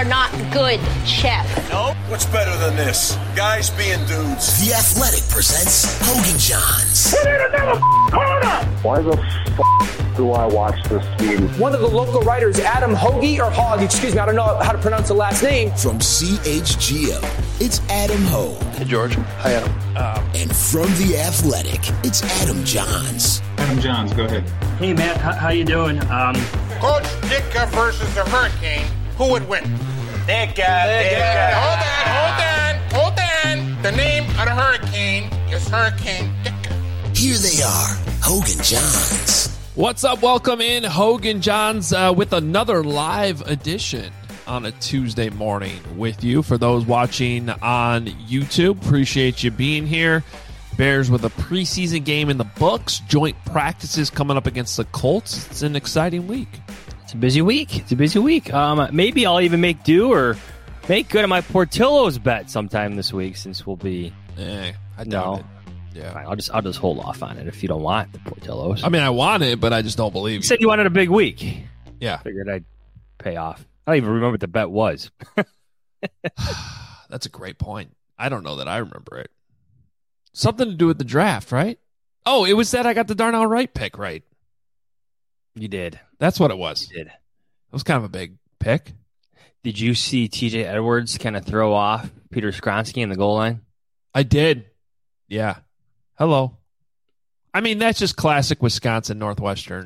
are not good, Chef. No? What's better than this? Guys being dudes. The Athletic presents Hogan Johns. We need another corner! Why the do I watch this team? One of the local writers, Adam Hoagie, or Hogg, excuse me, I don't know how to pronounce the last name. From CHGO, it's Adam Hogue. Hey, George. Hi, Adam. And from The Athletic, it's Adam Johns. Adam Johns, go ahead. Hey, Matt, how you doing? Coach Ditka versus the Hurricane, who would win? Ditka. Hold on. The name of the Hurricane is Hurricane Ditka. Here they are, Hogan Johns. What's up? Welcome in, Hogan Johns, with another live edition on a Tuesday morning with you. For those watching on YouTube, appreciate you being here. Bears with a preseason game in the books, joint practices coming up against the Colts. It's an exciting week. It's a busy week. Maybe I'll even make do or make good on my Portillo's bet sometime this week, since we'll be. I doubt it. Yeah, fine, I'll just hold off on it if you don't want the Portillo's. I mean, I want it, but I just don't believe you. You said you wanted a big week. Yeah. Figured I'd pay off. I don't even remember what the bet was. That's a great point. I don't know that I remember it. Something to do with the draft, right? Oh, it was that I got the Darnell Wright pick right. You did. That's what it was. You did. It was kind of a big pick. Did you see TJ Edwards kind of throw off Peter Skronsky in the goal line? I did. Yeah. Hello. I mean, that's just classic Wisconsin Northwestern.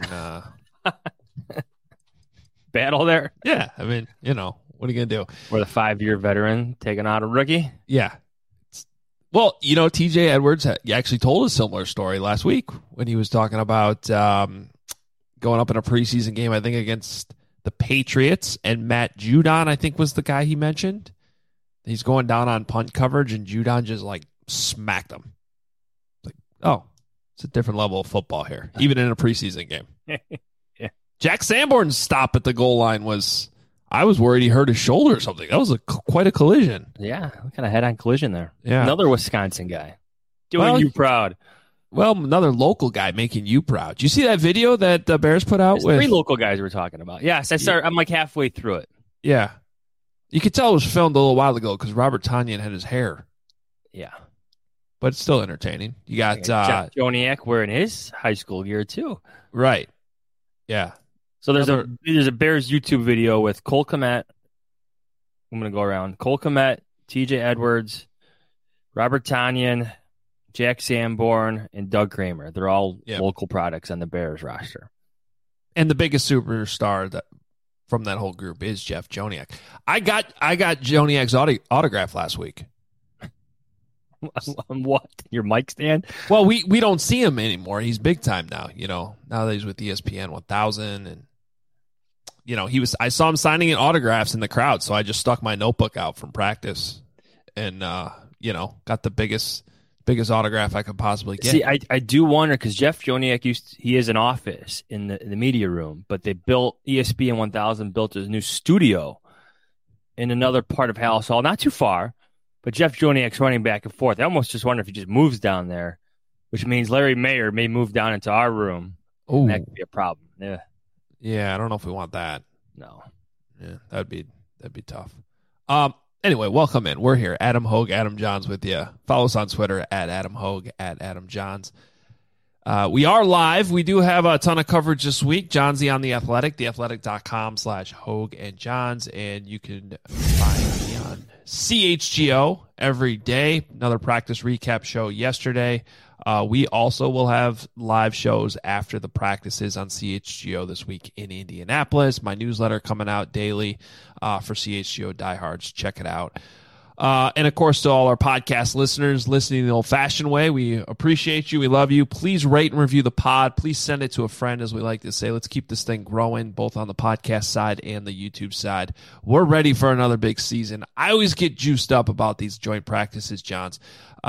Battle there? Yeah. I mean, what are you going to do? Where the 5-year veteran taking out a rookie? Yeah. Well, TJ Edwards actually told a similar story last week when he was talking about going up in a preseason game, I think, against the Patriots, and Matt Judon, I think, was the guy he mentioned. He's going down on punt coverage, and Judon just, smacked him. Oh, it's a different level of football here, even in a preseason game. Yeah. Jack Sanborn's stop at the goal line I was worried he hurt his shoulder or something. That was quite a collision. Yeah, kind of head-on collision there. Yeah. Another Wisconsin guy doing you proud. Well, another local guy making you proud. Do you see that video that the Bears put out? There's 3 local guys we're talking about. Yes, I'm halfway through it. Yeah. You could tell it was filmed a little while ago because Robert Tonyan had his hair. Yeah. But it's still entertaining. You got Jeff Joniak wearing his high school gear too. Right. Yeah. So there's a Bears YouTube video with Cole Kmet. I'm going to go around. Cole Kmet, TJ Edwards, Robert Tonyan, Jack Sanborn, and Doug Kramer. They're all local products on the Bears roster. And the biggest superstar from that whole group is Jeff Joniak. I got Joniak's autograph last week. On what? Your mic stand? Well, we don't see him anymore. He's big time now, now that he's with ESPN 1000, and I saw him signing in autographs in the crowd, so I just stuck my notebook out from practice and got the biggest autograph I could possibly get. See, I do wonder, because Jeff Joniak he has an office in the media room, but they built ESPN 1000 built his new studio in another part of Hallis Hall, not too far. But Jeff Joniak's running back and forth. I almost just wonder if he just moves down there, which means Larry Mayer may move down into our room. Oh, that could be a problem. Yeah. Yeah, I don't know if we want that. No. Yeah, that'd be tough. Anyway, welcome in. We're here. Adam Hogue, Adam Johns with you. Follow us on Twitter at Adam Hogue, at Adam Johns. We are live. We do have a ton of coverage this week. Johnsy on The Athletic, theathletic.com/Hogue and Johns, and you can find me on CHGO every day. Another practice recap show yesterday. We also will have live shows after the practices on CHGO this week in Indianapolis. My newsletter coming out daily for CHGO diehards. Check it out. And, of course, to all our podcast listeners listening the old-fashioned way, we appreciate you. We love you. Please rate and review the pod. Please send it to a friend, as we like to say. Let's keep this thing growing, both on the podcast side and the YouTube side. We're ready for another big season. I always get juiced up about these joint practices, Johns.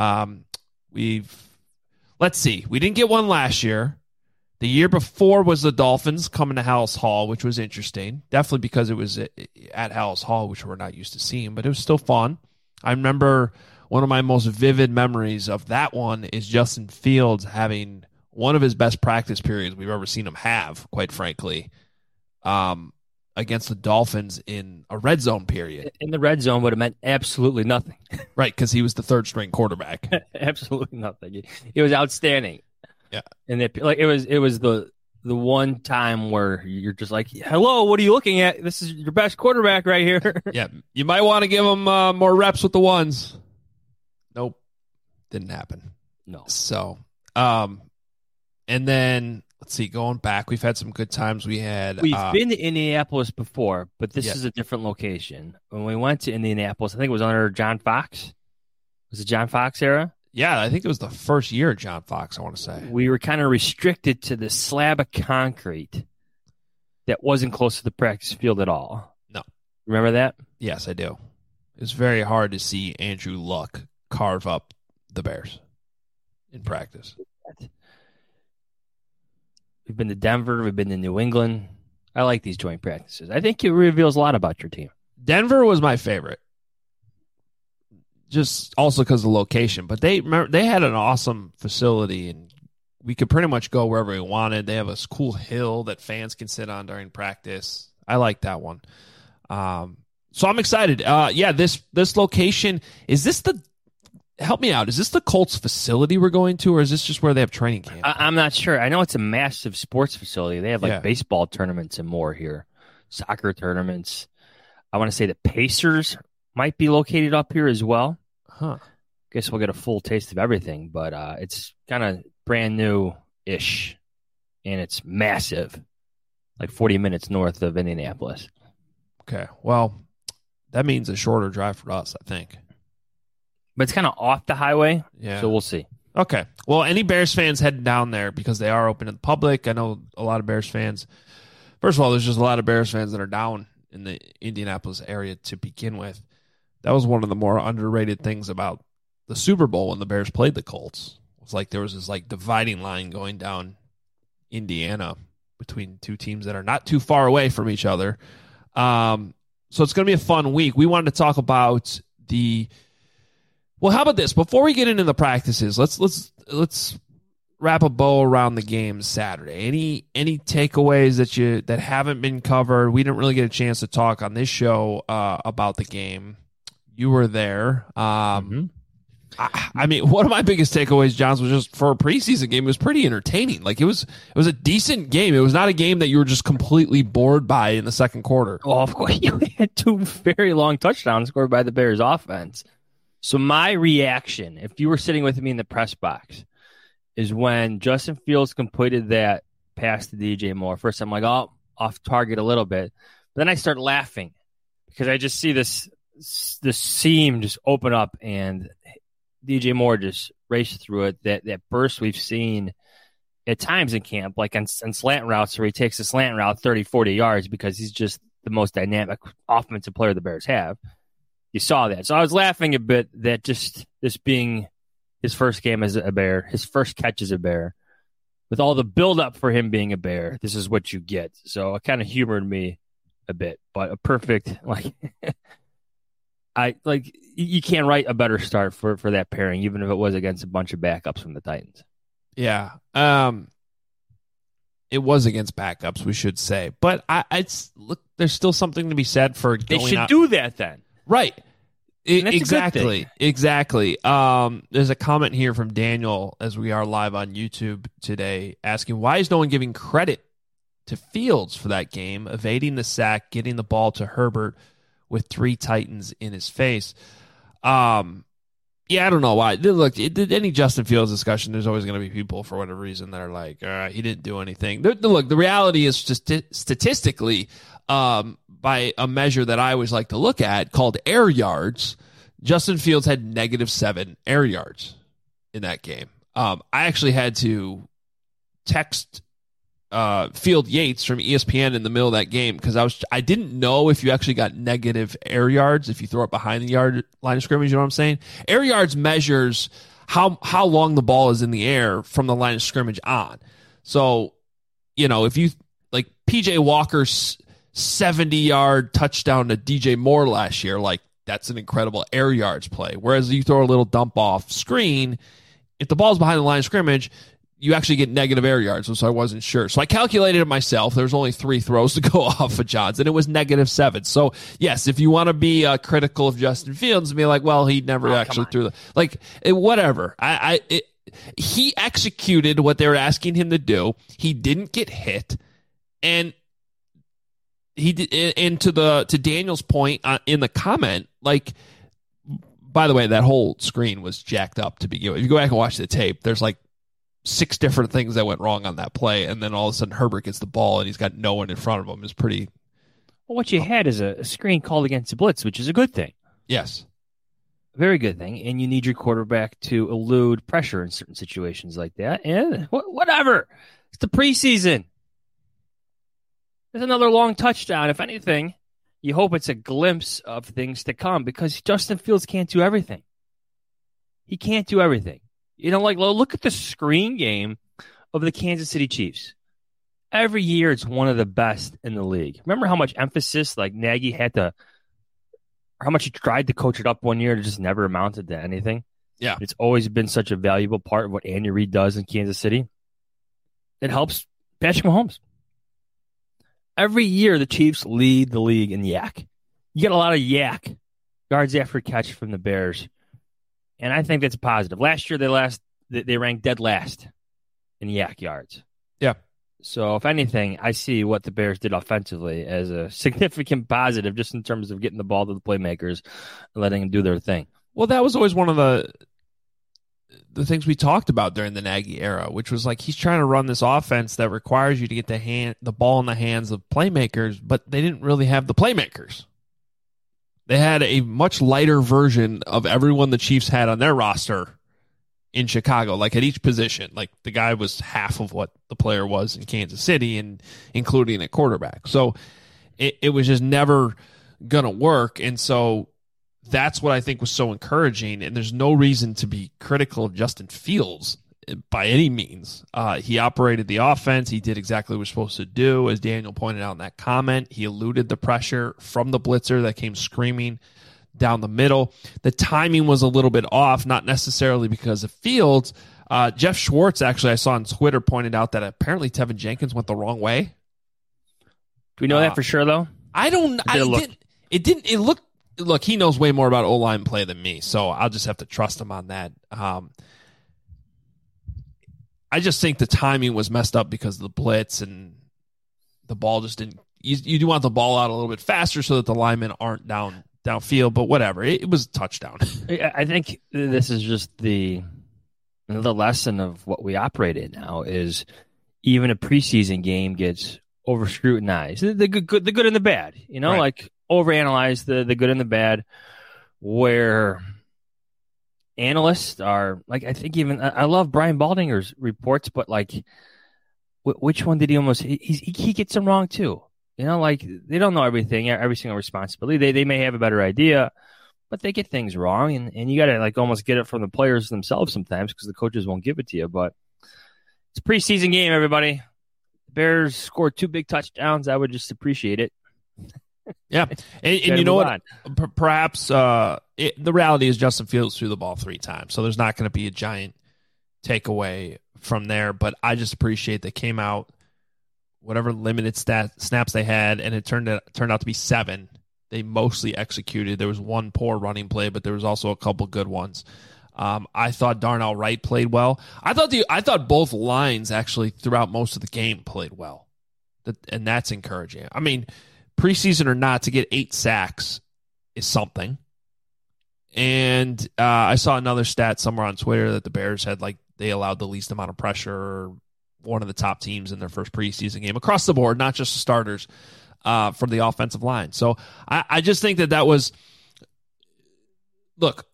Let's see. We didn't get one last year. The year before was the Dolphins coming to Hallis Hall, which was interesting. Definitely because it was at Hallis Hall, which we're not used to seeing, but it was still fun. I remember one of my most vivid memories of that one is Justin Fields having one of his best practice periods we've ever seen him have, quite frankly, against the Dolphins in a red zone period. In the red zone would have meant absolutely nothing. Right, because he was the third string quarterback. Absolutely nothing. It was outstanding. Yeah, and it was the one time where you're just like, hello, what are you looking at? This is your best quarterback right here. Yeah, you might want to give him more reps with the ones. Nope, didn't happen. No. So, and then let's see, going back, we've had some good times. We've been to Indianapolis before, but this is a different location. When we went to Indianapolis, I think it was under John Fox. Was it John Fox era? Yeah, I think it was the first year of John Fox, I want to say. We were kind of restricted to the slab of concrete that wasn't close to the practice field at all. No. Remember that? Yes, I do. It's very hard to see Andrew Luck carve up the Bears in practice. We've been to Denver. We've been to New England. I like these joint practices. I think it reveals a lot about your team. Denver was my favorite, just also because of the location. But they had an awesome facility, and we could pretty much go wherever we wanted. They have a cool hill that fans can sit on during practice. I like that one. So I'm excited. This location, is this the – help me out. Is this the Colts facility we're going to, or is this just where they have training camp? I'm not sure. I know it's a massive sports facility. They have baseball tournaments and more here, soccer tournaments. I want to say the Pacers might be located up here as well. Huh. Guess we'll get a full taste of everything, but it's kind of brand new-ish, and it's massive, like 40 minutes north of Indianapolis. Okay. Well, that means a shorter drive for us, I think. But it's kind of off the highway, so we'll see. Okay. Well, any Bears fans heading down there, because they are open to the public. I know a lot of Bears fans. First of all, there's just a lot of Bears fans that are down in the Indianapolis area to begin with. That was one of the more underrated things about the Super Bowl when the Bears played the Colts. It was like there was this like dividing line going down Indiana between two teams that are not too far away from each other. So it's going to be a fun week. We wanted to talk about well, how about this? Before we get into the practices, let's wrap a bow around the game Saturday. Any takeaways that haven't been covered? We didn't really get a chance to talk on this show about the game. You were there. I mean, one of my biggest takeaways, Johns, was just for a preseason game, it was pretty entertaining. Like it was a decent game. It was not a game that you were just completely bored by in the second quarter. Oh, of course, you had two very long touchdowns scored by the Bears offense. So my reaction, if you were sitting with me in the press box, is when Justin Fields completed that pass to DJ Moore. First, I'm like, oh, off target a little bit. But then I start laughing because I just see this seam just open up and DJ Moore just raced through it. That burst we've seen at times in camp, like on slant routes where he takes a slant route 30, 40 yards because he's just the most dynamic offensive player the Bears have. You saw that. So I was laughing a bit that just this being his first game as a Bear, his first catch as a Bear, with all the buildup for him being a Bear, this is what you get. So it kind of humored me a bit, but a perfect, you can't write a better start for that pairing, even if it was against a bunch of backups from the Titans. Yeah. It was against backups, we should say. But there's still something to be said for they going should out. do that then. Right. Exactly. There's a comment here from Daniel as we are live on YouTube today asking, why is no one giving credit to Fields for that game, evading the sack, getting the ball to Herbert with 3 Titans in his face? I don't know why. Look, any Justin Fields discussion, there's always going to be people for whatever reason that are like, he didn't do anything. Look, the reality is just statistically, by a measure that I always like to look at called air yards, Justin Fields had -7 air yards in that game. I actually had to text Field Yates from ESPN in the middle of that game because I didn't know if you actually got negative air yards if you throw it behind the yard line of scrimmage. You know what I'm saying? Air yards measures how long the ball is in the air from the line of scrimmage on. So, if you like PJ Walker's 70-yard touchdown to DJ Moore last year, that's an incredible air yards play. Whereas you throw a little dump off screen, if the ball's behind the line of scrimmage, you actually get negative air yards, so I wasn't sure. So I calculated it myself. There was only 3 throws to go off of Johns, and it was -7. So, yes, if you want to be critical of Justin Fields and be like, well, he never actually threw whatever. He executed what they were asking him to do. He didn't get hit, and he did. And to Daniel's point in the comment, like, by the way, that whole screen was jacked up to begin with. If you go back and watch the tape, there's like 6 different things that went wrong on that play, and then all of a sudden Herbert gets the ball and he's got no one in front of him. It's pretty. Well, what you had is a screen called against the blitz, which is a good thing. Yes. Very good thing, and you need your quarterback to elude pressure in certain situations like that. And whatever. It's the preseason. There's another long touchdown. If anything, you hope it's a glimpse of things to come because Justin Fields can't do everything. He can't do everything. You know, like, look at the screen game of the Kansas City Chiefs. Every year, it's one of the best in the league. Remember how much emphasis, like, Nagy had to, how much he tried to coach it up one year, it just never amounted to anything. Yeah. It's always been such a valuable part of what Andy Reid does in Kansas City. It helps Patrick Mahomes. Every year, the Chiefs lead the league in yak. You get a lot of yak, yards after catch from the Bears. And I think that's positive. Last year, they ranked dead last in yak yards. Yeah. So, if anything, I see what the Bears did offensively as a significant positive just in terms of getting the ball to the playmakers and letting them do their thing. Well, that was always one of the things we talked about during the Nagy era, which was like he's trying to run this offense that requires you to get the ball in the hands of playmakers, but they didn't really have the playmakers. They had a much lighter version of everyone the Chiefs had on their roster in Chicago, like at each position. Like the guy was half of what the player was in Kansas City, and including a quarterback. So it was just never going to work. And so that's what I think was so encouraging. And there's no reason to be critical of Justin Fields by any means. He operated the offense. He did exactly what he was supposed to do. As Daniel pointed out in that comment, he eluded the pressure from the blitzer that came screaming down the middle. The timing was a little bit off, not necessarily because of Fields. Jeff Schwartz, actually, I saw on Twitter, pointed out that apparently Tevin Jenkins went the wrong way. Do we know that for sure, though? I don't. It looked. Look, he knows way more about O-line play than me, so I'll just have to trust him on that. I just think the timing was messed up because of the blitz, and the ball just didn't. You do want the ball out a little bit faster so that the linemen aren't downfield, but whatever. It was a touchdown. I think this is just the lesson of what we operate in now is even a preseason game gets over scrutinized. The good and the bad, you know, right. Like overanalyze the good and the bad, where analysts are like, I think even I love Brian Baldinger's reports, but like, which one did he almost? He gets them wrong too. You know, like they don't know everything, every single responsibility. They may have a better idea, but they get things wrong, and you got to like almost get it from the players themselves sometimes because the coaches won't give it to you. But it's a preseason game, everybody. The Bears scored 2 big touchdowns. I would just appreciate it. Yeah, and you know what? Perhaps the reality is Justin Fields threw the ball 3 times, so there's not going to be a giant takeaway from there. But I just appreciate they came out, whatever limited snaps they had, and it turned out to be 7. They mostly executed. There was 1 poor running play, but there was also a couple good ones. I thought Darnell Wright played well. I thought both lines actually throughout most of the game played well, and that's encouraging. I mean, preseason or not, to get 8 sacks is something. And I saw another stat somewhere on Twitter that the Bears had, like, they allowed the least amount of pressure, one of the top teams in their first preseason game across the board, not just the starters, from the offensive line. So I just think that was, look,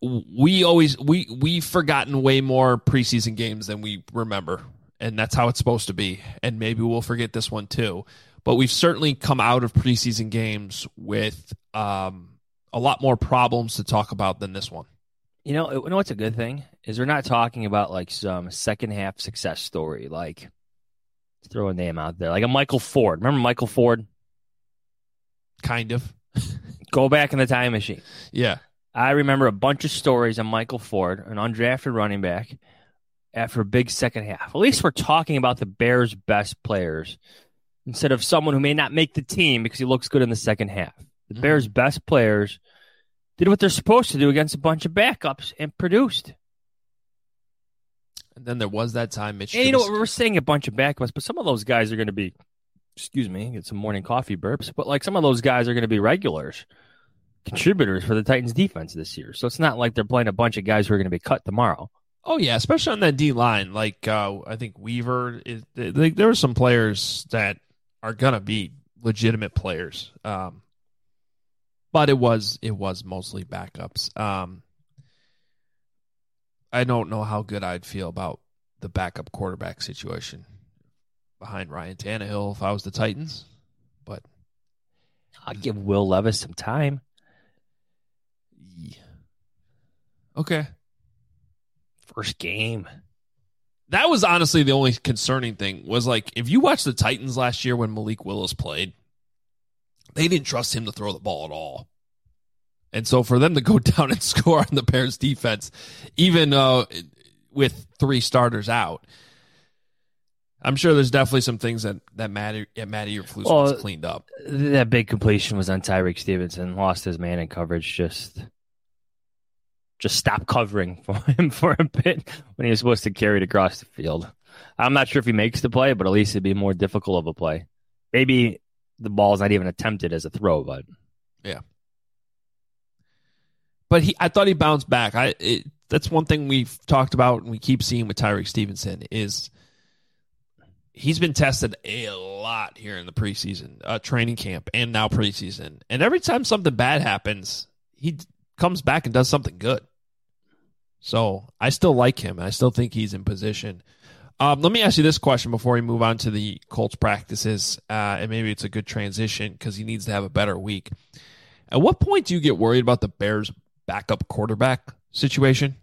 we've forgotten way more preseason games than we remember, and that's how it's supposed to be. And maybe we'll forget this one too. But we've certainly come out of preseason games with a lot more problems to talk about than this one. You know what's a good thing is we're not talking about like some second half success story. Like, let's throw a name out there, like a Michael Ford. Remember Michael Ford? Kind of. Go back in the time machine. Yeah. I remember a bunch of stories on Michael Ford, an undrafted running back, after a big second half. At least we're talking about the Bears' best players instead of someone who may not make the team because he looks good in the second half. The Bears' best players did what they're supposed to do against a bunch of backups and produced. And then there was that time Mitch. And we're saying a bunch of backups, but some of those guys are going to be, excuse me, get some morning coffee burps, but like some of those guys are going to be regulars, contributors for the Titans defense this year. So it's not like they're playing a bunch of guys who are going to be cut tomorrow. Oh, yeah, especially on that D line. Like, I think Weaver, there are some players that are going to be legitimate players. But it was mostly backups. I don't know how good I'd feel about the backup quarterback situation behind Ryan Tannehill if I was the Titans. But I'll give Will Levis some time. Yeah. Okay. First game. That was honestly the only concerning thing was like if you watch the Titans last year when Malik Willis played, they didn't trust him to throw the ball at all. And so for them to go down and score on the Bears defense, even with 3 starters out, I'm sure there's definitely some things that Matty Eberflus wants cleaned up. That big completion was on Tyreek Stevenson, lost his man in coverage, just stopped covering for him for a bit when he was supposed to carry it across the field. I'm not sure if he makes the play, but at least it'd be more difficult of a play. Maybe the ball's not even attempted as a throw, but yeah. But I thought he bounced back. That's one thing we've talked about and we keep seeing with Tyreek Stevenson is he's been tested a lot here in the preseason, training camp, and now preseason. And every time something bad happens, he comes back and does something good. So I still like him, and I still think he's in position. Let me ask you this question before we move on to the Colts practices, and maybe it's a good transition because he needs to have a better week. At what point do you get worried about the Bears' backup quarterback situation?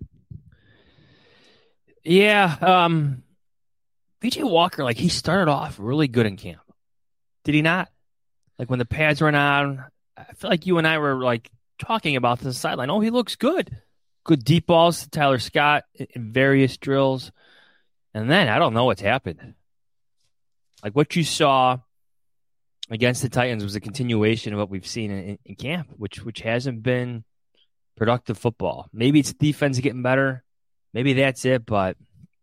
Yeah, PJ Walker, like he started off really good in camp. Did he not? Like when the pads went on, I feel like you and I were like talking about the sideline. Oh, he looks good. Good deep balls to Tyler Scott in various drills. And then I don't know what's happened. Like what you saw against the Titans was a continuation of what we've seen in camp, which hasn't been productive football. Maybe it's defense getting better. Maybe that's it, but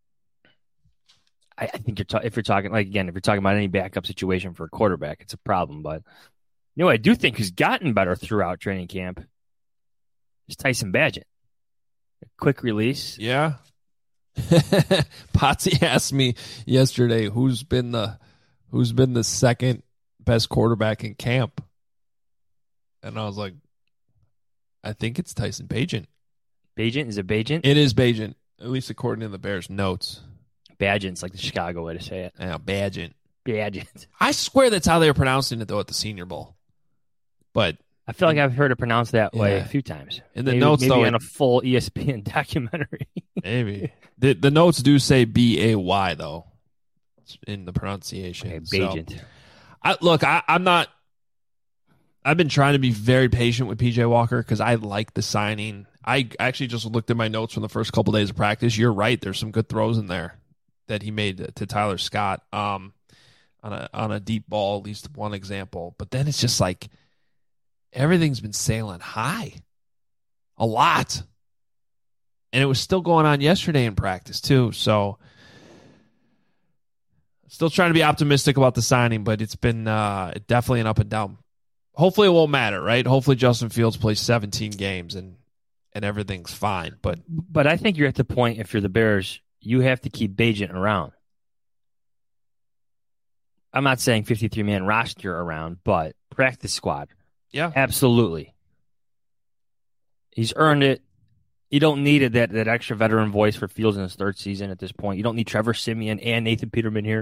I think if you're talking about any backup situation for a quarterback, it's a problem. But I do think who's gotten better throughout training camp is Tyson Bagent. A quick release. Yeah. Potsy asked me yesterday who's been the second best quarterback in camp, and I was like, I think it's Tyson Bagent. Bagent? Is it Bagent? It is Bagent, at least according to the Bears notes. Bagent's like the Chicago way to say it. Yeah, Bagent. I swear that's how they were pronouncing it though at the Senior Bowl, but I feel like I've heard it pronounced that way a few times. In the notes, maybe though, in a full ESPN documentary. Maybe the notes do say B-A-Y though in the pronunciation. Okay, Bagent. So, I'm not. I've been trying to be very patient with PJ Walker because I like the signing. I actually just looked at my notes from the first couple days of practice. You're right. There's some good throws in there that he made to Tyler Scott on a deep ball, at least one example. But then it's just like everything's been sailing high a lot. And it was still going on yesterday in practice too. So still trying to be optimistic about the signing, but it's been definitely an up and down. Hopefully it won't matter, right? Hopefully Justin Fields plays 17 games and everything's fine. But I think you're at the point, if you're the Bears, you have to keep Bagent around. I'm not saying 53-man roster around, but practice squad. Yeah. Absolutely. He's earned it. You don't need that extra veteran voice for Fields in his third season at this point. You don't need Trevor Siemian and Nathan Peterman here.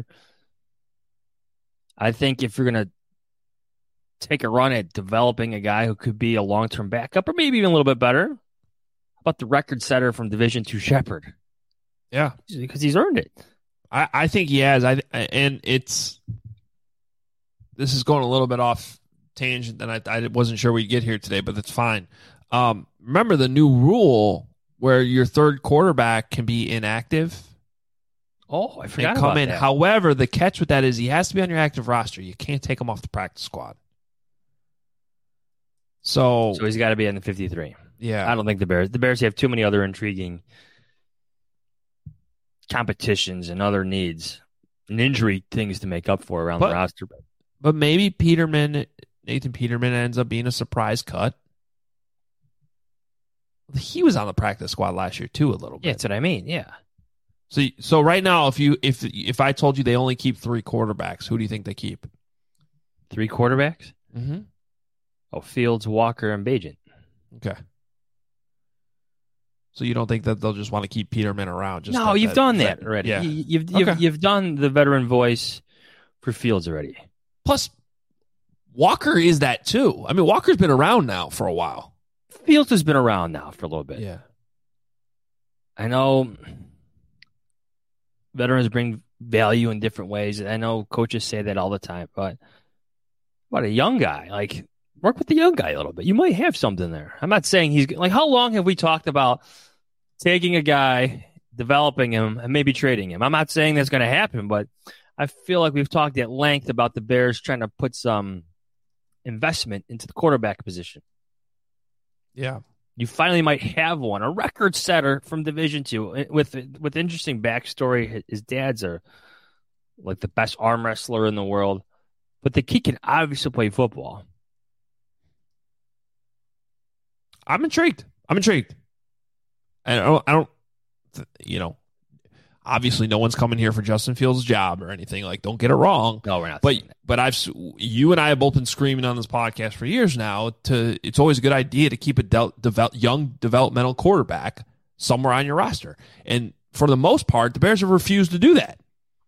I think if you're going to take a run at developing a guy who could be a long-term backup or maybe even a little bit better, how about the record setter from Division II Shepherd? Yeah. Because he's earned it. I think he has. This is going a little bit off tangent, and I wasn't sure we'd get here today, but that's fine. Remember the new rule where your third quarterback can be inactive Oh, I forgot and come about in. that. However, the catch with that is he has to be on your active roster. You can't take him off the practice squad. So he's got to be in the 53. Yeah. I don't think the Bears have too many other intriguing competitions and other needs and injury things to make up for around the roster. But maybe Nathan Peterman ends up being a surprise cut. He was on the practice squad last year too, a little bit. Yeah, that's what I mean. Yeah. So right now, if I told you they only keep 3 quarterbacks, who do you think they keep? 3 quarterbacks? Mm-hmm. Oh, Fields, Walker, and Bagent. Okay. So you don't think that they'll just want to keep Peterman around? No, you've done that already. Yeah. You've done the veteran voice for Fields already. Plus, Walker is that too. I mean, Walker's been around now for a while. Fields has been around now for a little bit. Yeah. I know veterans bring value in different ways. I know coaches say that all the time, but what a young guy. Like, work with the young guy a little bit. You might have something there. I'm not saying he's like, how long have we talked about taking a guy, developing him, and maybe trading him? I'm not saying that's going to happen, but I feel like we've talked at length about the Bears trying to put some investment into the quarterback position. Yeah. You finally might have one, a record setter from Division II with interesting backstory. His dad's like the best arm wrestler in the world, but the kid can obviously play football. I'm intrigued. And I don't, obviously no one's coming here for Justin Fields' job or anything. Like, don't get it wrong. No, we're not. But you and I have both been screaming on this podcast for years now. It's always a good idea to keep a young developmental quarterback somewhere on your roster. And for the most part, the Bears have refused to do that.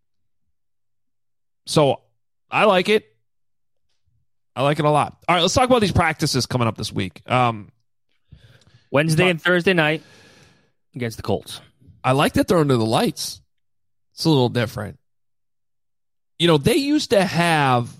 So I like it. I like it a lot. All right, let's talk about these practices coming up this week. Wednesday and Thursday night against the Colts. I like that they're under the lights. It's a little different. They used to have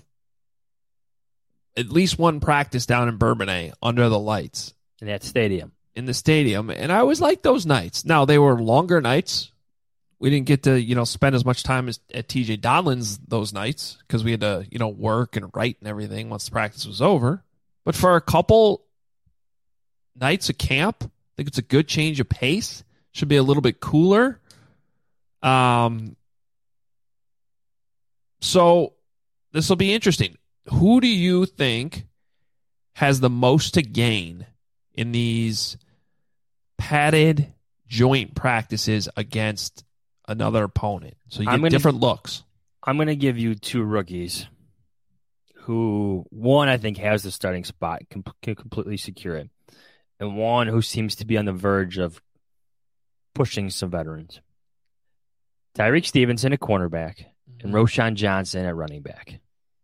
at least one practice down in Bourbonnais under the lights. In that stadium. In the stadium. And I always liked those nights. Now, they were longer nights. We didn't get to, spend as much time at TJ Donlan's those nights because we had to, work and write and everything once the practice was over. But for a couple nights of camp, I think it's a good change of pace. Should be a little bit cooler. So this will be interesting. Who do you think has the most to gain in these padded joint practices against another opponent? So you get different looks. I'm going to give you 2 rookies who, one, I think has the starting spot, can completely secure it, and one who seems to be on the verge of pushing some veterans. Tyreek Stevenson at cornerback and Roschon Johnson at running back.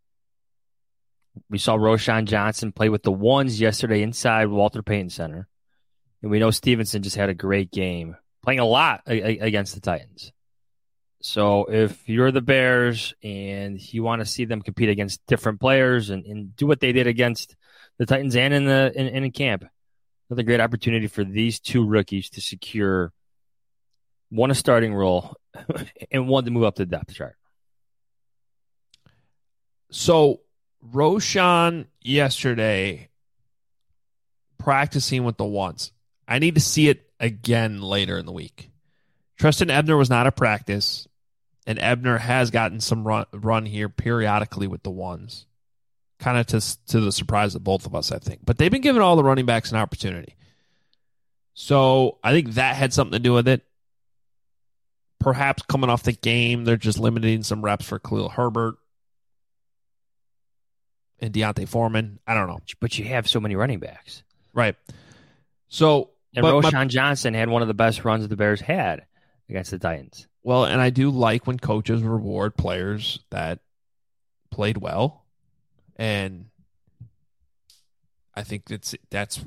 We saw Roschon Johnson play with the ones yesterday inside Walter Payton Center. And we know Stevenson just had a great game, playing a lot against the Titans. So if you're the Bears and you want to see them compete against different players and do what they did against the Titans and in camp, another great opportunity for these 2 rookies to secure one a starting role and one to move up the depth chart. So Roschon yesterday practicing with the ones. I need to see it again later in the week. Trestan Ebner was not at practice, and Ebner has gotten some run here periodically with the ones, kind of to the surprise of both of us, I think. But they've been giving all the running backs an opportunity. So I think that had something to do with it. Perhaps coming off the game, they're just limiting some reps for Khalil Herbert and Deontay Foreman. I don't know. But you have so many running backs. Right. So, and Roschon Johnson had one of the best runs the Bears had against the Titans. Well, and I do like when coaches reward players that played well. And I think that's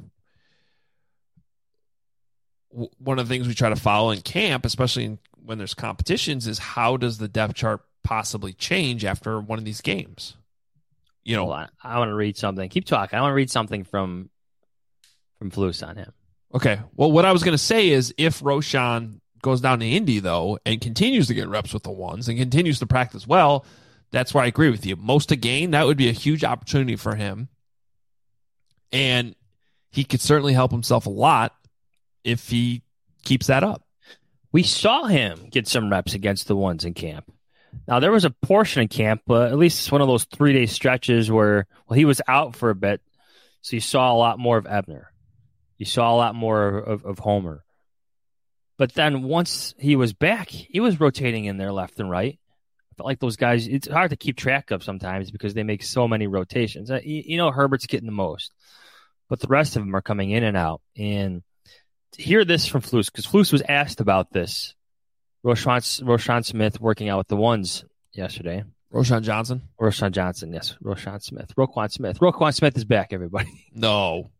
one of the things we try to follow in camp, especially when there's competitions, is how does the depth chart possibly change after one of these games? Hold on. I want to read something. Keep talking. I want to read something from Flus on him. Okay. Well, what I was going to say is if Roschon goes down to Indy, though, and continues to get reps with the ones and continues to practice well, that's where I agree with you. Most to gain, that would be a huge opportunity for him. And he could certainly help himself a lot if he keeps that up. We saw him get some reps against the ones in camp. Now, there was a portion of camp, at least one of those 3-day stretches where, he was out for a bit, so you saw a lot more of Ebner. You saw a lot more of Homer. But then once he was back, he was rotating in there left and right. I felt like those guys, it's hard to keep track of sometimes because they make so many rotations. Herbert's getting the most, but the rest of them are coming in and out. And to hear this from Flus, because Flus was asked about this, Roschon Smith working out with the ones yesterday. Roschon Johnson? Roschon Johnson, yes. Roschon Smith. Roquan Smith. Roquan Smith is back, everybody. No.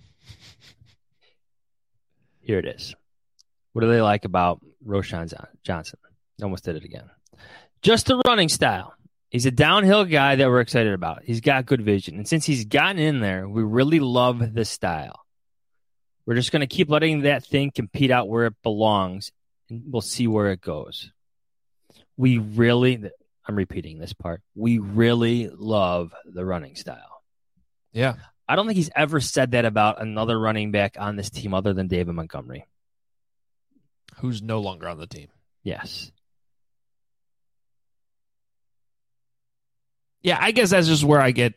Here it is. What do they like about Roschon Johnson? Almost did it again. Just the running style. He's a downhill guy that we're excited about. He's got good vision. And since he's gotten in there, we really love this style. We're just going to keep letting that thing compete out where it belongs, and we'll see where it goes. I'm repeating this part. We really love the running style. Yeah. I don't think he's ever said that about another running back on this team other than David Montgomery. Who's no longer on the team. Yes. Yeah, I guess that's just where I get.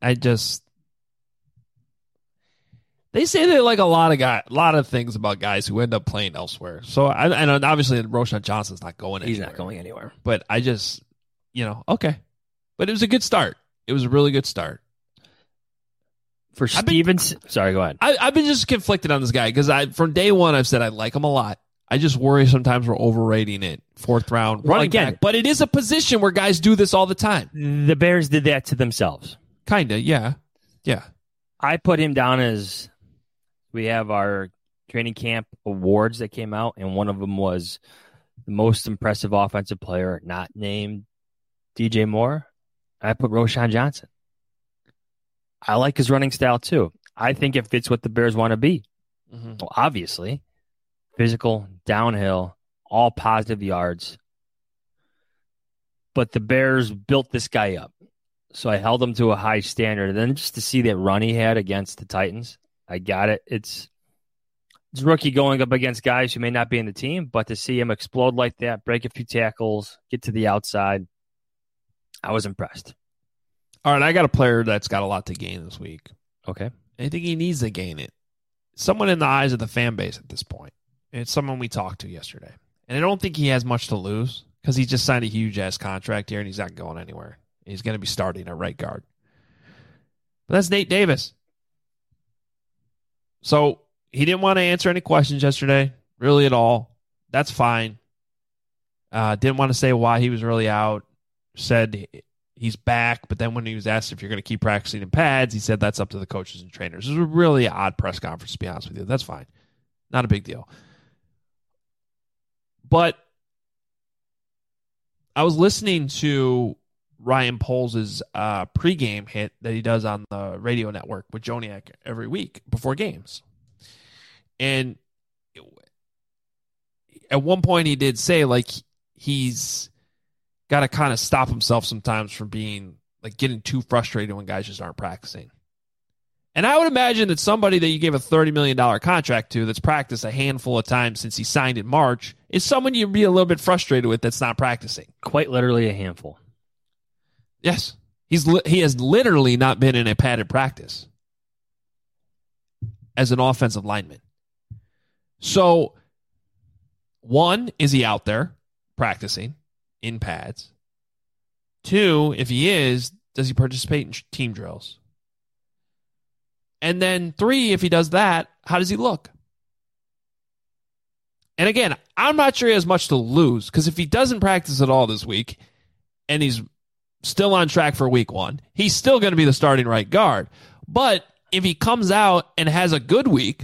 They say they like a lot of things about guys who end up playing elsewhere. So and obviously Roschon Johnson's not going anywhere. He's not going anywhere. But I just, okay. But it was a good start. It was a really good start. For Stevens, sorry, go ahead. I've been just conflicted on this guy because from day one I've said I like him a lot. I just worry sometimes we're overrating it. 4th round running back. But it is a position where guys do this all the time. The Bears did that to themselves. Kinda, yeah. Yeah. I put him down as we have our training camp awards that came out, and one of them was the most impressive offensive player not named DJ Moore. I put Roschon Johnson. I like his running style too. I think it fits what the Bears want to be. Mm-hmm. Well, obviously, physical, downhill, all positive yards. But the Bears built this guy up. So I held him to a high standard. And then just to see that run he had against the Titans, I got it. It's a rookie going up against guys who may not be in the team, but to see him explode like that, break a few tackles, get to the outside, I was impressed. All right, I got a player that's got a lot to gain this week. Okay. I think he needs to gain it. Someone in the eyes of the fan base at this point. And it's someone we talked to yesterday. And I don't think he has much to lose because he just signed a huge-ass contract here and he's not going anywhere. He's going to be starting at right guard. But that's Nate Davis. So he didn't want to answer any questions yesterday, really at all. That's fine. Didn't want to say why he was really out. Said he's back, but then when he was asked if you're going to keep practicing in pads, he said that's up to the coaches and trainers. It was a really odd press conference, to be honest with you. That's fine. Not a big deal. But I was listening to Ryan Poles' pregame hit that he does on the radio network with Joniak every week before games. And at one point he did say, like, he's got to kind of stop himself sometimes from being, like, getting too frustrated when guys just aren't practicing. And I would imagine that somebody that you gave a $30 million contract to that's practiced a handful of times since he signed in March is someone you'd be a little bit frustrated with that's not practicing. Quite literally a handful. Yes. He has literally not been in a padded practice as an offensive lineman. So, one, is he out there practicing in pads? Two, if he is, does he participate in team drills? And then three, if he does that, how does he look? And again, I'm not sure he has much to lose because if he doesn't practice at all this week and he's still on track for week one, he's still going to be the starting right guard. But if he comes out and has a good week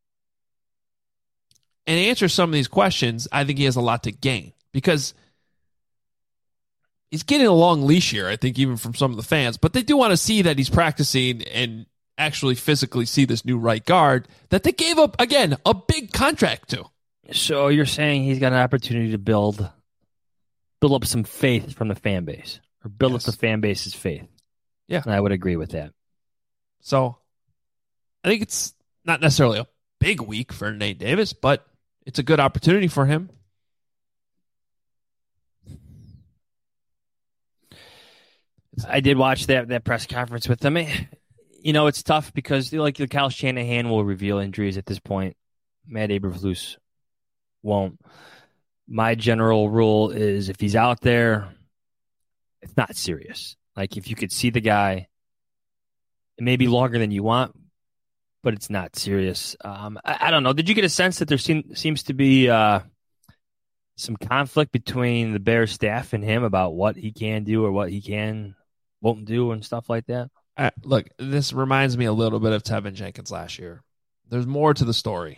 and answers some of these questions, I think he has a lot to gain because he's getting a long leash here, I think, even from some of the fans. But they do want to see that he's practicing and actually physically see this new right guard that they gave up, again, a big contract to. So you're saying he's got an opportunity to build up some faith from the fan base, or build up the fan base's faith. Yeah. And I would agree with that. So I think it's not necessarily a big week for Nate Davis, but it's a good opportunity for him. I did watch that press conference with him. You know, it's tough because like Kyle Shanahan will reveal injuries at this point. Matt Eberflus won't. My general rule is if he's out there, it's not serious. Like if you could see the guy, it may be longer than you want, but it's not serious. I don't know. Did you get a sense that there seems to be some conflict between the Bears staff and him about what he can do or what he won't do and stuff like that? Look, this reminds me a little bit of Tevin Jenkins last year. There's more to the story.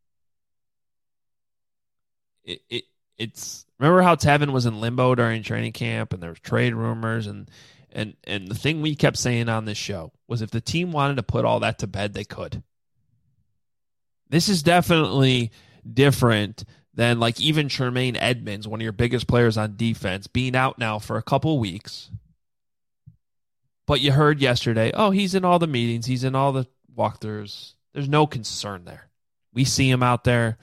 It's remember how Tevin was in limbo during training camp and there was trade rumors and the thing we kept saying on this show was if the team wanted to put all that to bed, they could. This is definitely different than like even Tremaine Edmonds, one of your biggest players on defense, being out now for a couple weeks. But you heard yesterday, oh, he's in all the meetings, he's in all the walkthroughs. There's no concern there. We see him out there.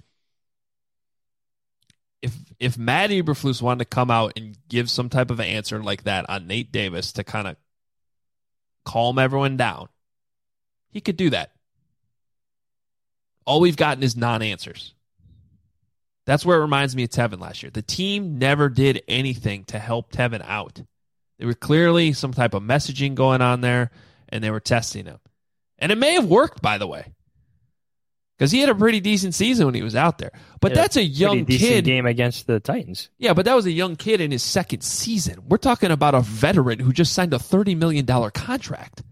If Matt Eberflus wanted to come out and give some type of answer like that on Nate Davis to kind of calm everyone down, he could do that. All we've gotten is non-answers. That's where it reminds me of Tevin last year. The team never did anything to help Tevin out. There were clearly some type of messaging going on there, and they were testing him. And it may have worked, by the way, because he had a pretty decent season when he was out there. But that's a young kid. Game against the Titans. Yeah, but that was a young kid in his second season. We're talking about a veteran who just signed a $30 million contract.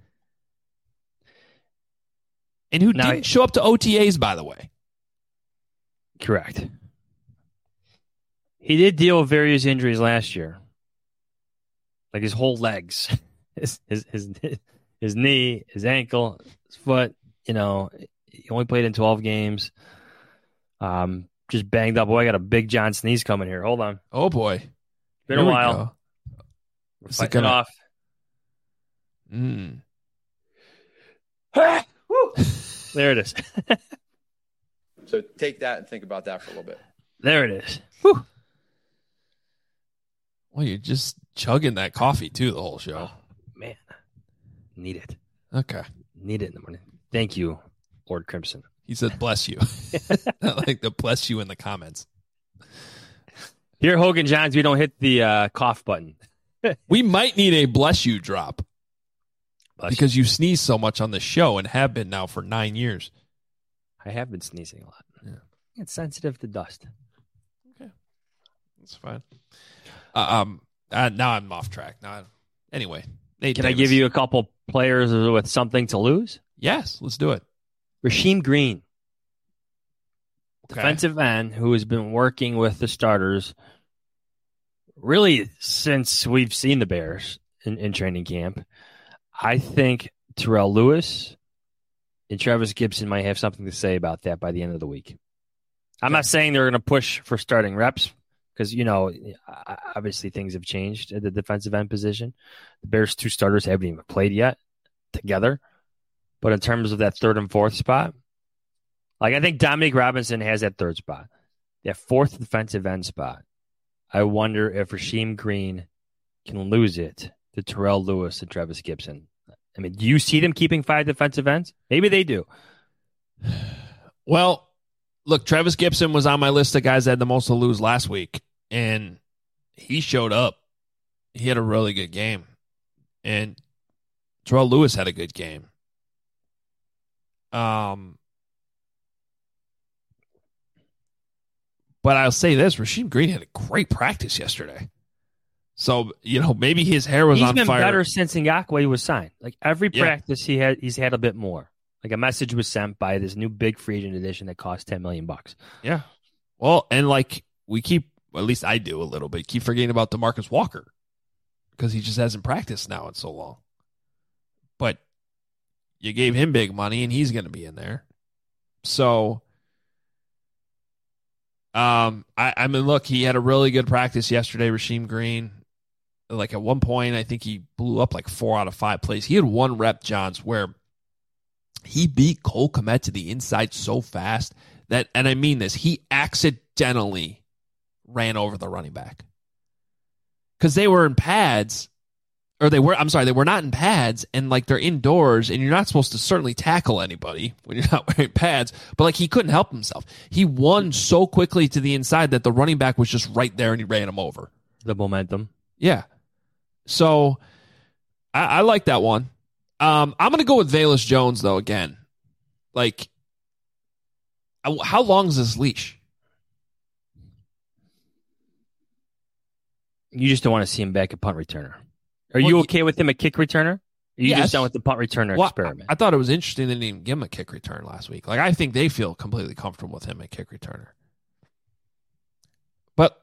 And who didn't show up to OTAs, by the way. Correct. He did deal with various injuries last year. Like his whole legs. His knee, his ankle, his foot, you know. He only played in 12 games. Just banged up. Boy, I got a big John sneeze coming here. Hold on. Oh, boy. Been a while. We're fighting it off. There it is. So take that and think about that for a little bit. There it is. Whew. Well, you're just chugging that coffee, too, the whole show. Oh, man. Need it. Okay. Need it in the morning. Thank you, Lord Crimson. He said, bless you. I like the bless you in the comments. Here, Hogan Johns, we don't hit the cough button. We might need a bless you drop. Because you you sneeze so much on the show and have been now for 9 years. I have been sneezing a lot. Yeah. It's sensitive to dust. Okay. That's fine. Now I'm off track. Anyway. Nate Can Davis. I give you a couple players with something to lose? Yes, let's do it. Rasheem Green. Okay. Defensive end who has been working with the starters really since we've seen the Bears in training camp. I think Terrell Lewis and Travis Gibson might have something to say about that by the end of the week. I'm not saying they're going to push for starting reps because, you know, obviously things have changed at the defensive end position. The Bears' two starters haven't even played yet together. But in terms of that third and fourth spot, like I think Dominique Robinson has that third spot. That fourth defensive end spot, I wonder if Rasheem Green can lose it to Terrell Lewis and Travis Gibson. I mean, do you see them keeping 5 defensive ends? Maybe they do. Well, look, Travis Gibson was on my list of guys that had the most to lose last week, and he showed up. He had a really good game. And Terrell Lewis had a good game. But I'll say this, Rasheem Green had a great practice yesterday. So, you know, maybe his hair was on fire. He's been better since Ngakoue was signed. Like every practice he's had a bit more. Like a message was sent by this new big free agent edition that cost $10 million. Yeah. Well, and like we keep, at least I do a little bit, keep forgetting about DeMarcus Walker because he just hasn't practiced now in so long. But you gave him big money and he's going to be in there. So I mean, look, he had a really good practice yesterday, Rasheem Green. Like at one point, I think he blew up like 4 out of 5 plays. He had one rep, Johns, where he beat Cole Kmet to the inside so fast that, and I mean this, he accidentally ran over the running back. Because they were in pads, or they were not in pads, and like they're indoors, and you're not supposed to certainly tackle anybody when you're not wearing pads, but like he couldn't help himself. He won so quickly to the inside that the running back was just right there and he ran him over. The momentum. Yeah. So I like that one. I'm going to go with Velus Jones, though, again. Like, how long is this leash? You just don't want to see him back at punt returner. Are you okay with him at kick returner? Are you just done with the punt returner experiment? I thought it was interesting they didn't even give him a kick return last week. Like, I think they feel completely comfortable with him at kick returner. But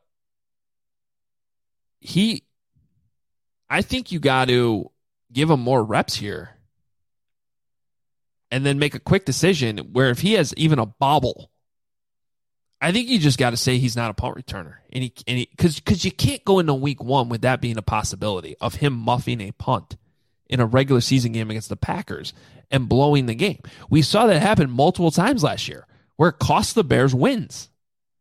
I think you got to give him more reps here and then make a quick decision where if he has even a bobble, I think you just got to say he's not a punt returner. And because you can't go into week 1 with that being a possibility of him muffing a punt in a regular season game against the Packers and blowing the game. We saw that happen multiple times last year where it cost the Bears wins.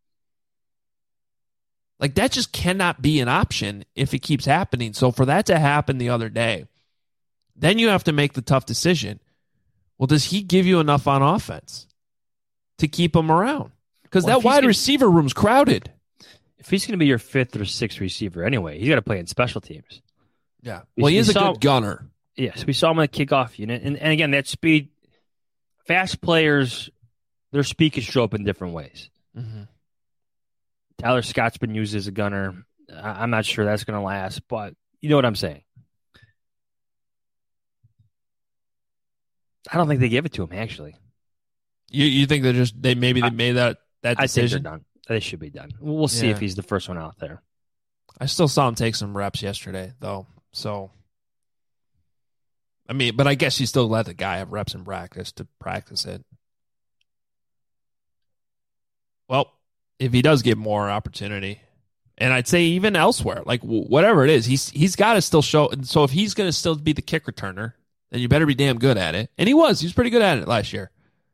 Like, that just cannot be an option if it keeps happening. So for that to happen the other day, then you have to make the tough decision. Well, does he give you enough on offense to keep him around? Because that wide receiver room's crowded. If he's going to be your 5th or 6th receiver anyway, he's got to play in special teams. Yeah. Well, he is a good gunner. Yes, we saw him in the kickoff unit. And again, that speed, fast players, their speed can show up in different ways. Mm-hmm. Tyler Scott's been used as a gunner. I'm not sure that's going to last, but you know what I'm saying. I don't think they give it to him, actually. You think they made that decision? I think they're done. They should be done. We'll see if he's the first one out there. I still saw him take some reps yesterday, though. So, I mean, but I guess you still let the guy have reps in practice to practice it. Well, if he does get more opportunity, and I'd say even elsewhere, like whatever it is, he's got to still show. So if he's going to still be the kick returner, then you better be damn good at it. And he was pretty good at it last year.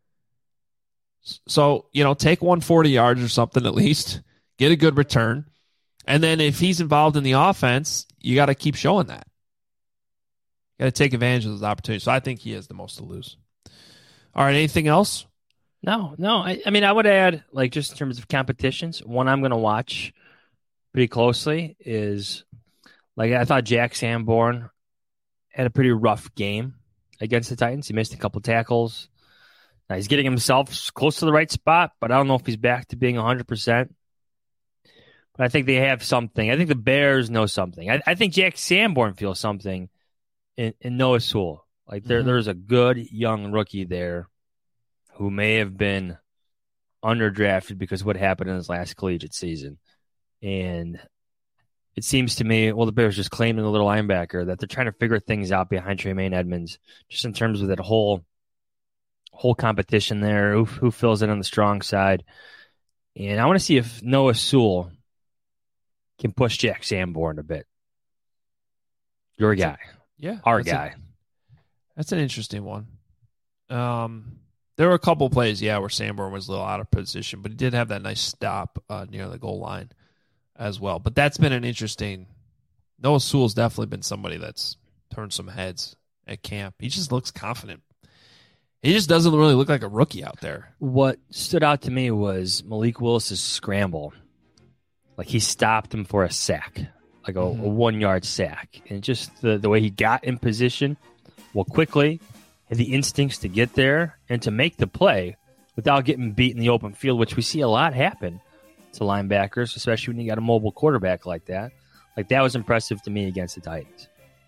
So, take 140 yards or something at least, get a good return. And then if he's involved in the offense, you got to keep showing that. You got to take advantage of those opportunities. So I think he has the most to lose. All right, anything else? No. I mean, I would add, like, just in terms of competitions, one I'm going to watch pretty closely is, like, I thought Jack Sanborn had a pretty rough game against the Titans. He missed a couple tackles. Now, he's getting himself close to the right spot, but I don't know if he's back to being 100%. But I think they have something. I think the Bears know something. I think Jack Sanborn feels something in Noah Sewell. Like, there's a good young rookie there who may have been underdrafted because of what happened in his last collegiate season. And it seems to me, well, the Bears just claiming the little linebacker that they're trying to figure things out behind Tremaine Edmonds, just in terms of that whole competition there, who fills in on the strong side. And I want to see if Noah Sewell can push Jack Sanborn a bit. Your guy. Yeah. Our guy. That's an interesting one. There were a couple plays, where Sanborn was a little out of position, but he did have that nice stop near the goal line as well. But that's been an interesting. Noah Sewell's definitely been somebody that's turned some heads at camp. He just looks confident. He just doesn't really look like a rookie out there. What stood out to me was Malik Willis's scramble. Like, he stopped him for a sack, like a 1-yard sack. And just the way he got in position, quickly, had the instincts to get there and to make the play without getting beat in the open field, which we see a lot happen to linebackers, especially when you got a mobile quarterback like that. Like, that was impressive to me against the Titans.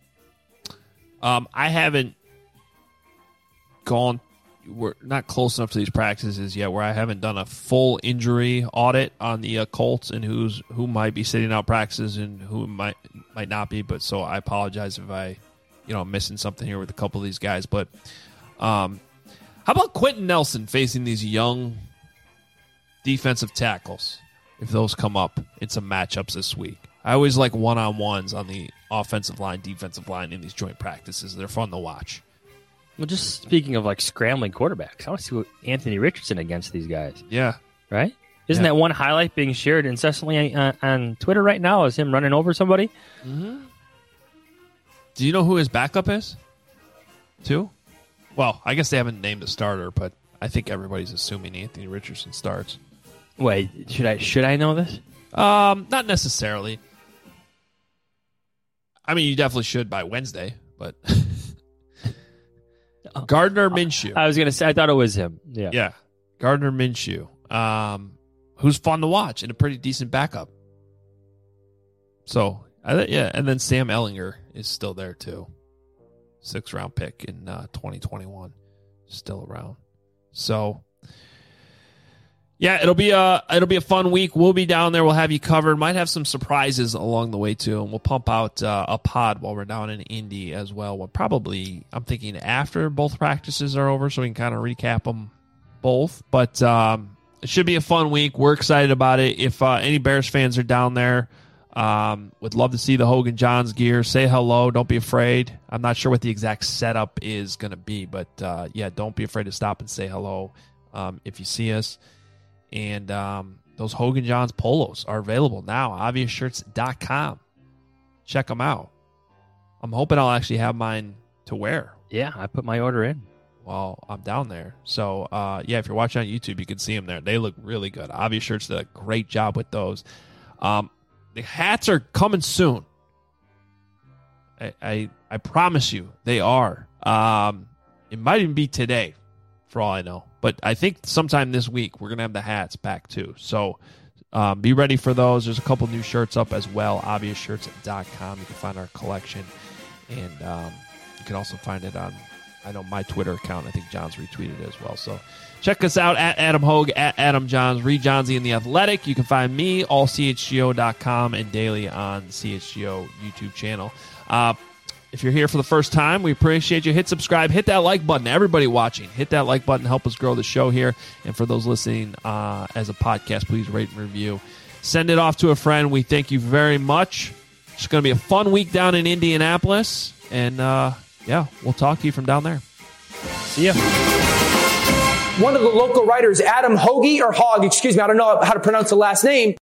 I haven't gone. We're not close enough to these practices yet where I haven't done a full injury audit on the Colts and who might be sitting out practices and who might not be. But so I apologize if I'm missing something here with a couple of these guys. But how about Quentin Nelson facing these young defensive tackles? if those come up in some matchups this week. I always like one-on-ones on the offensive line, defensive line in these joint practices. They're fun to watch. Well, just speaking of like scrambling quarterbacks, I want to see what Anthony Richardson against these guys. Yeah. Right? Isn't that one highlight being shared incessantly on Twitter right now? Is him running over somebody? Mm-hmm. Do you know who his backup is? Too? Well, I guess they haven't named a starter, but I think everybody's assuming Anthony Richardson starts. Wait, should I know this? Not necessarily. I mean, you definitely should by Wednesday, but Gardner Minshew. I was going to say, I thought it was him. Yeah. Yeah. Gardner Minshew, who's fun to watch and a pretty decent backup. So, yeah, and then Sam Ehlinger is still there too. 6th-round pick in 2021, still around. So, yeah, it'll be a fun week. We'll be down there. We'll have you covered. Might have some surprises along the way too, and we'll pump out a pod while we're down in Indy as well. We'll probably, I'm thinking after both practices are over, so we can kind of recap them both. But it should be a fun week. We're excited about it. If any Bears fans are down there, would love to see the Hogan Johns gear. Say hello. Don't be afraid. I'm not sure what the exact setup is going to be, but yeah, don't be afraid to stop and say hello if you see us. And those Hogan Johns polos are available now. Obviousshirts.com. Check them out. I'm hoping I'll actually have mine to wear. Yeah, I put my order in. Well, I'm down there. So, yeah, if you're watching on YouTube, you can see them there. They look really good. Obvious Shirts did a great job with those. The hats are coming soon. I promise you they are. It might even be today, for all I know. But I think sometime this week we're going to have the hats back too. So be ready for those. There's a couple new shirts up as well. Obviousshirts.com. You can find our collection. And you can also find it on, I know, my Twitter account. I think John's retweeted it as well. So check us out at Adam Hogue, at Adam Johns, Reed Johnsy in The Athletic. You can find me, allchgo.com, and daily on CHGO YouTube channel. If you're here for the first time, we appreciate you. Hit subscribe. Hit that like button. Everybody watching, hit that like button. Help us grow the show here. And for those listening as a podcast, please rate and review. Send it off to a friend. We thank you very much. It's going to be a fun week down in Indianapolis. And, yeah, we'll talk to you from down there. See ya. One of the local writers, Adam Hoagie or Hogg, excuse me, I don't know how to pronounce the last name.